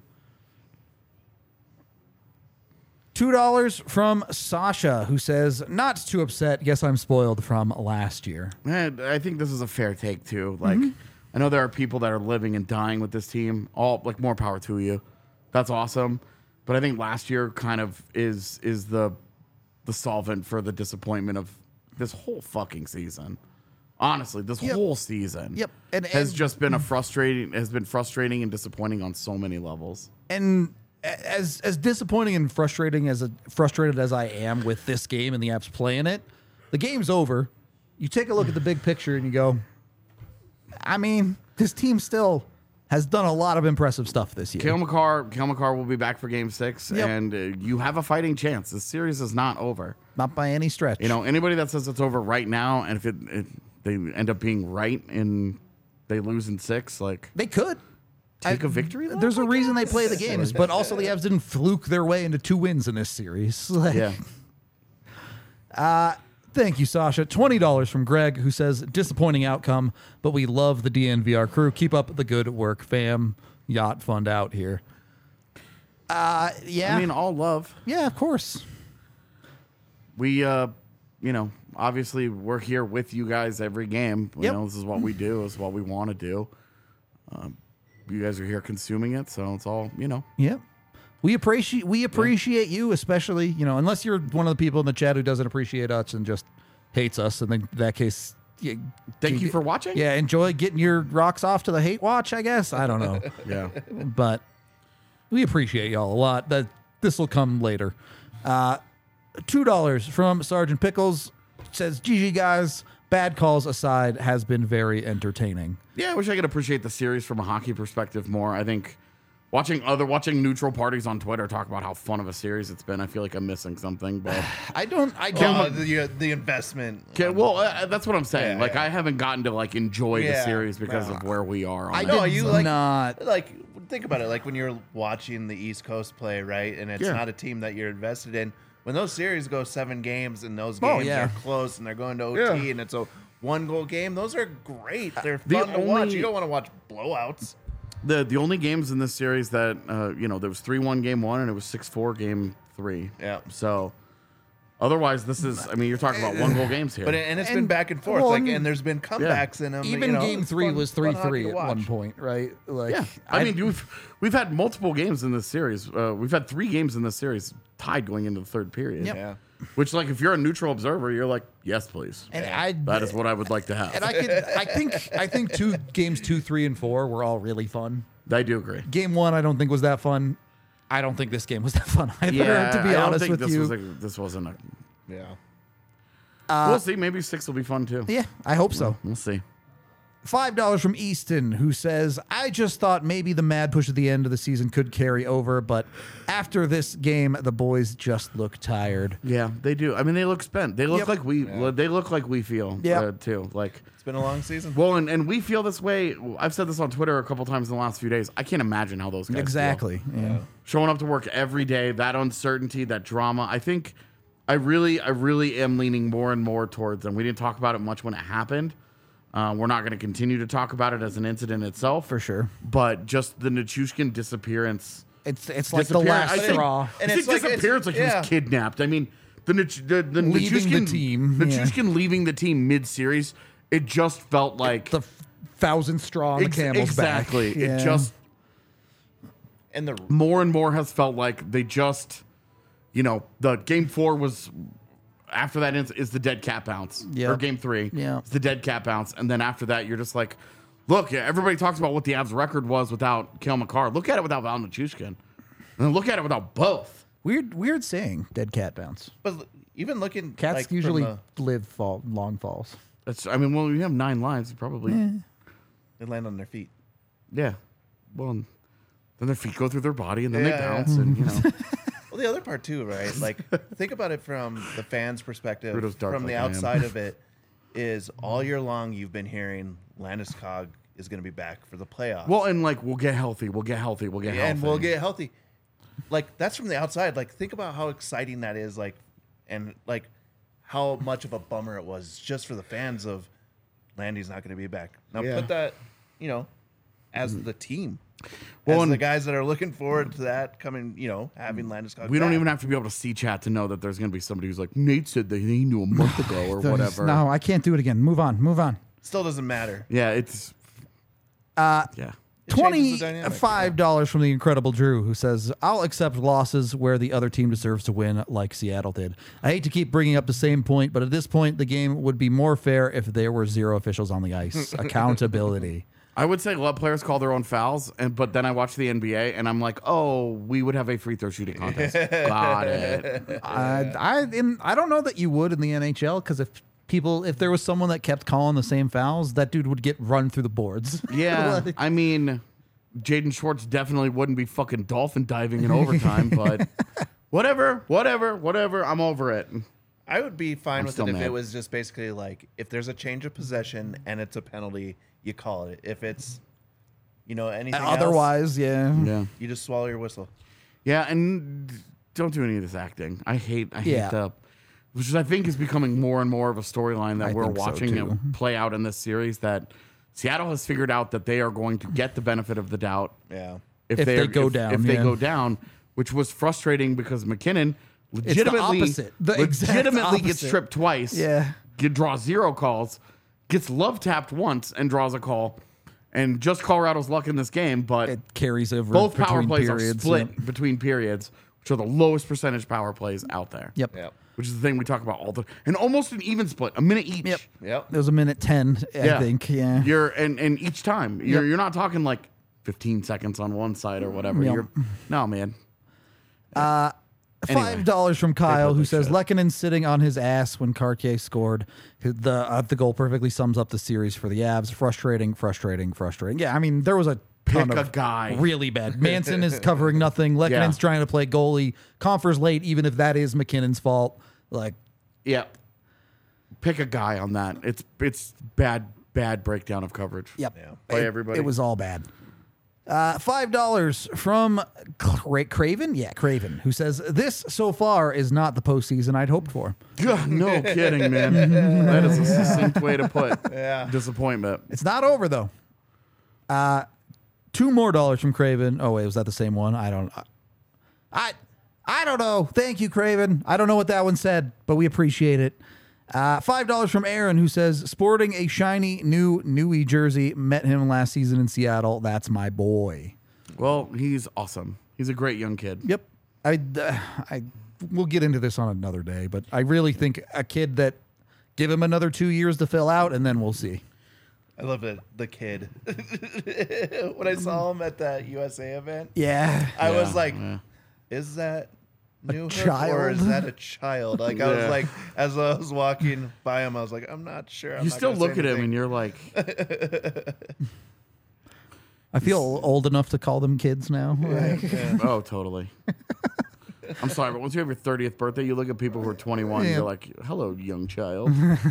$2 from Sasha, who says, not too upset. Guess I'm spoiled from last year. And I think this is a fair take too. Like, I know there are people that are living and dying with this team. All like more power to you. That's awesome. But I think last year kind of is the solvent for the disappointment of this whole fucking season. Honestly, this whole season Yep. has just been frustrating and disappointing on so many levels. And as disappointing and frustrated as I am with this game and the Avs playing it, the game's over. You take a look at the big picture and you go, I mean, this team still has done a lot of impressive stuff this year. Cale Makar will be back for Game 6, Yep. and you have a fighting chance. The series is not over. Not by any stretch. You know, anybody that says it's over right now, and if they end up being right and they lose in 6, like they could. take a victory lap, There's a I reason they guess? play the games, but also the Avs didn't fluke their way into 2 wins in this series. Like, Yeah. Thank you, Sasha. $20 from Greg, who says, disappointing outcome, but we love the DNVR crew. Keep up the good work, fam. Yacht fund out here. Yeah. I mean, all love. Yeah, of course. We, obviously we're here with you guys every game. You Yep. know, this is what we do. This is what we want to do. You guys are here consuming it, so it's all, Yep. We appreciate you, especially, unless you're one of the people in the chat who doesn't appreciate us and just hates us. And then in that case, Thank you for watching. Yeah, enjoy getting your rocks off to the hate watch, I guess. I don't know. Yeah. But we appreciate y'all a lot. This will come later. $2 from Sergeant Pickles says, GG guys, bad calls aside, has been very entertaining. Yeah, I wish I could appreciate the series from a hockey perspective more. I think watching neutral parties on Twitter talk about how fun of a series it's been, I feel like I'm missing something. But I don't. The investment. okay, well, that's what I'm saying. Yeah, like, yeah. I haven't gotten to like enjoy the Yeah. series because of where we are. On I it. No, did you like not. like think about it. Like when you're watching the East Coast play, right, and it's Yeah. not a team that you're invested in. When those series go 7 games and those Oh, games yeah. are close and they're going to OT Yeah. and it's a 1-goal game, those are great. They're The fun to watch. only- You don't want to watch blowouts. The only games in this series that there was 3-1 game 1 and it was 6-4 game 3. Yeah. So otherwise, this is. I mean, you're talking about 1-goal games here. But it's been And- back and forth. well, Like, and there's been comebacks in them. Even game it's 3 fun- was fun hockey 3-3 to at watch. one point, right? Like, yeah, I mean, we've had multiple games in this series. We've had 3 games in this series tied going into the third period. Yep. Yeah. Which, like, if you're a neutral observer, you're like, yes, please. and That is what I would like to have. And I think games 2, 3, and 4 were all really fun. I do agree. Game 1, I don't think was that fun. I don't think this game was that fun either. Yeah, to be I don't honest think with this you. this wasn't a. Yeah. We'll see. Maybe 6 will be fun too. Yeah, I hope so. We'll see. $5 from Easton, who says, I just thought maybe the mad push at the end of the season could carry over, but after this game, the boys just look tired. Yeah, they do. I mean, they look spent. They look Yep. like we. They look like we feel. Yep. Too. Like. It's been a long season. Well, and we feel this way. I've said this on Twitter a couple times in the last few days. I can't imagine how those guys feel. Exactly. Yeah. Showing up to work every day, that uncertainty, that drama. I think I really am leaning more and more towards, and we didn't talk about it much when it happened. We're not going to continue to talk about it as an incident itself. For sure. But just the Nichushkin disappearance. It's like the last straw. And And it's like- disappearance like he yeah. was kidnapped. I mean, the Leaving the Nichushkin team, yeah. Nichushkin leaving the team mid-series, it just felt like The 1,000 straw on the camel's exactly. back. Yeah. It just And the more and more has felt like they just, the game 4 was after that is the dead cat bounce. Yeah. Or game 3. Yeah. It's the dead cat bounce. And then after that, you're just like, look, everybody talks about what the Avs record was without Cale Makar. Look at it without Val Nichushkin. And then look at it without both. Weird saying, dead cat bounce. but even looking Cats like, from usually the- live long falls. Well, you have 9 lives. You probably, they land on their feet. yeah. Well, then their feet go through their body and then they Yeah. bounce. And, Well, the other part too, right? Like, think about it from the fans' perspective. Rudo's dark From the like I am. outside of it, is all year long you've been hearing Landeskog is going to be back for the playoffs. Well, and like we'll get healthy, we'll get healthy, we'll get healthy, and we'll get healthy. Like, that's from the outside. Like, think about how exciting that is. Like, and like how much of a bummer it was just for the fans of Landy's not going to be back. Now Yeah. put that, as the team. Well, As and- the guys that are looking forward to that coming, having Landeskog. We don't back. even have to be able to see chat to know that there's going to be somebody who's like, Nate said that he knew a month ago or whatever. No, I can't do it again. Move on. Still doesn't matter. Yeah, it's yeah. It changes the dynamic, $25 from the Incredible Drew, who says, I'll accept losses where the other team deserves to win, like Seattle did. I hate to keep bringing up the same point, but at this point, the game would be more fair if there were 0 officials on the ice. Accountability. I would say let players call their own fouls, but then I watch the NBA and I'm like, oh, we would have a free throw shooting contest. Got it. I don't know that you would in the NHL, because if there was someone that kept calling the same fouls, that dude would get run through the boards. Yeah, I mean, Jaden Schwartz definitely wouldn't be fucking dolphin diving in overtime, but whatever. I'm over it. I would be fine I'm with still it if mad. it was just basically like, if there's a change of possession and it's a penalty, you call it. If it's, anything else, Otherwise, yeah. Yeah. you just swallow your whistle. Yeah, and don't do any of this acting. I hate Yeah. which I think is becoming more and more of a storyline that I we're think so, watching too. it play out in this series, that Seattle has figured out that they are going to get the benefit of the doubt Yeah. If they go down, If they yeah. go down, which was frustrating because McKinnon legitimately opposite. The exact legitimately gets opposite. tripped twice. Yeah. Draws 0 calls, gets love tapped once and draws a call. And just Colorado's luck in this game, but It carries over both power between plays periods. are split Yep. between periods, which are the lowest percentage power plays out there. Yep. Yep. Which is the thing we talk about all the, and almost an even split, a minute each. Yep. Yep. There was a minute 10, I think. Yeah. You're and each time you're not talking like 15 seconds on one side or whatever. Yep. You're no man. $5 from Kyle, who public says shit. Lehkonen sitting on his ass when Cartier scored. The goal perfectly sums up the series for the Avs. Frustrating. Yeah, I mean, there was a ton Pick a of guy. really bad. Manson is covering nothing. Lekkonen's Yeah. trying to play goalie. Confer's late, even if that is McKinnon's fault. Like, Yeah. Pick a guy on that. It's bad breakdown of coverage. yep. Yeah. By It- everybody. It was all bad. $5 from Craven? Yeah, Craven, who says, this so far is not the postseason I'd hoped for. God, no kidding, man. That is a succinct way to put disappointment. It's not over, though. $2 more from Craven. Oh, wait, was that the same one? I don't know. Thank you, Craven. I don't know what that one said, but we appreciate it. $5 from Aaron, who says, sporting a shiny new Newey jersey. Met him last season in Seattle. That's my boy. Well, he's awesome. He's a great young kid. Yep. We'll get into this on another day, but I really think a kid that give him another 2 years to fill out, and then we'll see. I love it. The kid. When I saw him at that USA event, Yeah. I was like, yeah. is that New Hook or child? is that a child? Like, I was like, as I was walking by him, I was like, I'm not sure. I'm You not still gonna look say at him anything. and you're like, I feel old enough to call them kids now. Like, oh, totally. I'm sorry, but once you have your 30th birthday, you look at people who are 21 and Yeah. you're like, hello, young child.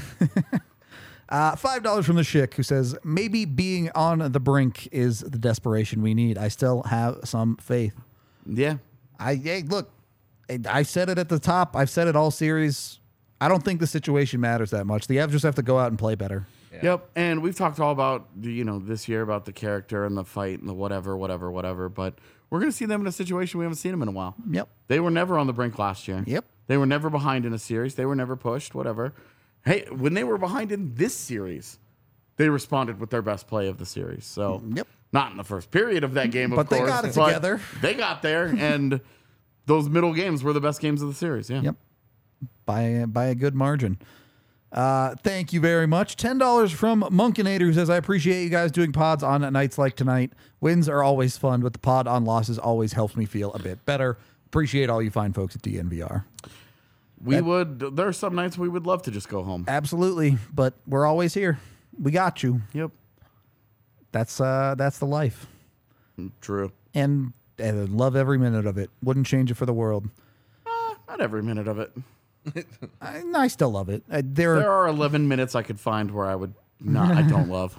$5 from the Schick, who says, maybe being on the brink is the desperation we need. I still have some faith. Yeah. Hey, look, I said it at the top. I've said it all series. I don't think the situation matters that much. The Avs just have to go out and play better. Yep. And we've talked all about, this year about the character and the fight and the whatever. But we're going to see them in a situation we haven't seen them in a while. Yep. They were never on the brink last year. Yep. They were never behind in a series. They were never pushed, whatever. Hey, when they were behind in this series, they responded with their best play of the series. So, Yep. not in the first period of that game, of But they course. got it but together. They got there, and those middle games were the best games of the series. Yeah. Yep. By a good margin. Thank you very much. $10 from Monkinator, who says, I appreciate you guys doing pods on nights like tonight. Wins are always fun, but the pod on losses always helps me feel a bit better. Appreciate all you fine folks at DNVR. There are some nights we would love to just go home. Absolutely, but we're always here. We got you. Yep. That's the life. True. And I love every minute of it. Wouldn't change it for the world. Not every minute of it. I still love it. There are 11 minutes I could find where I don't love.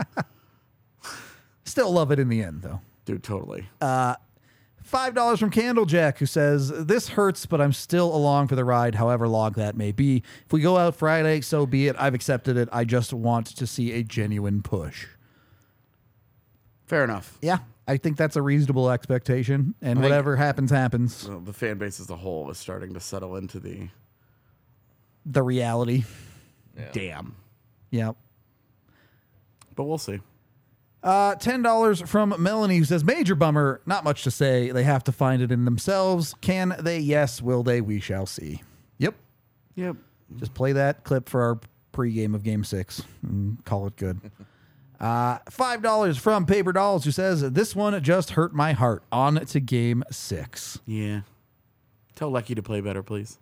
Still love it in the end, though. Dude, totally. $5 from Candlejack, who says, this hurts, but I'm still along for the ride, however long that may be. If we go out Friday, so be it. I've accepted it. I just want to see a genuine push. Fair enough. Yeah, I think that's a reasonable expectation, and whatever happens, happens. Well, the fan base as a whole is starting to settle into The reality. damn. Yep. But we'll see. $10 from Melanie, who says, major bummer, not much to say. They have to find it in themselves. Can they? Yes. Will they? We shall see. Yep. Yep. Just play that clip for our pregame of Game 6 and call it good. $5 from Paper Dolls, who says, this one just hurt my heart. On to Game 6. Yeah. Tell Lecky to play better, please.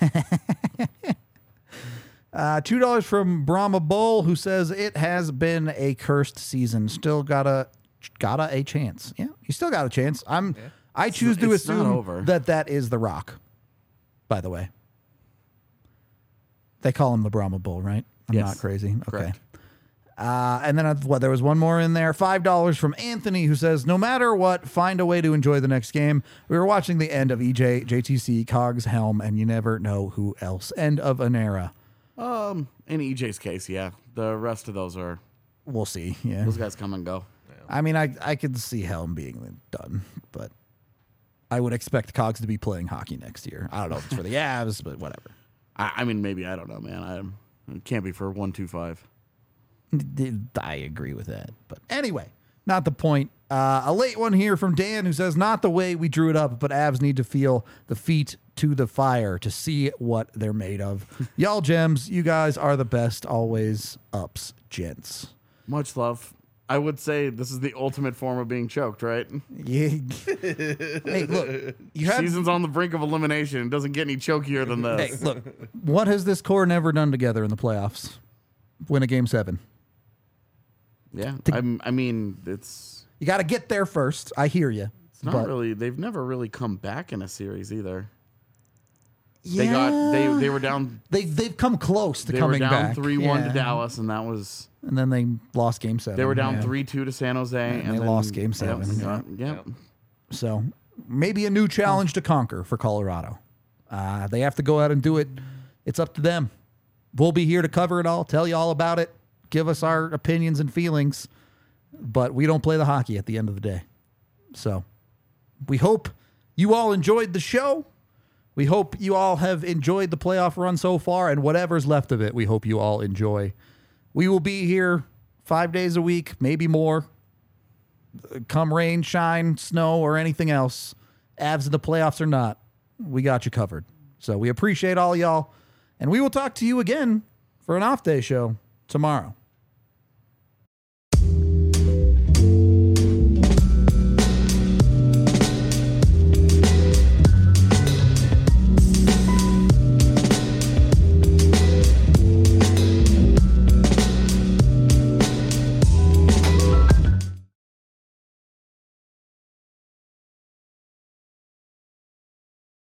$2 from Brahma Bull, who says, it has been a cursed season. Still got a chance. Yeah, you still got a chance. I choose to It's not assume over. that is The Rock, by the way. They call him the Brahma Bull, right? I'm Yes. not crazy. Okay. Correct. And then there was one more in there. $5 from Anthony, who says, no matter what, find a way to enjoy the next game. We were watching the end of EJ, JTC, Cogs, Helm, and you never know who else. End of an era. In EJ's case, yeah. The rest of those We'll see. Yeah. those guys come and go. I mean, I could see Helm being done, but I would expect Cogs to be playing hockey next year. I don't know if it's for the Avs, but whatever. I mean, maybe, I don't know, man. It can't be for 125. I agree with that. But anyway, not the point. A late one here from Dan, who says, not the way we drew it up, but Avs need to feel the feet to the fire to see what they're made of. Y'all gems, you guys are the best. Always ups, gents. Much love. I would say this is the ultimate form of being choked, right? Yeah. Hey, look. Season's on the brink of elimination. It doesn't get any chokier than this. Hey, look. What has this core never done together in the playoffs? Win a Game 7. Yeah. I mean, it's You got to get there first. I hear you. not really. They've never really come back in a series either. Yeah. They were down. They've come close to They were coming down back. 3-1 to Yeah. Dallas, and that was. And then they lost Game 7. They were down Yeah. 3-2 to San Jose, and they then, lost Game 7. Yep. So maybe a new challenge to conquer for Colorado. They have to go out and do it. It's up to them. We'll be here to cover it all, tell you all about it, give us our opinions and feelings, but we don't play the hockey at the end of the day. So we hope you all enjoyed the show. We hope you all have enjoyed the playoff run so far, and whatever's left of it, we hope you all enjoy. We will be here 5 days a week, maybe more. Come rain, shine, snow, or anything else. Avs in the playoffs or not, we got you covered. So we appreciate all y'all, and we will talk to you again for an off day show tomorrow.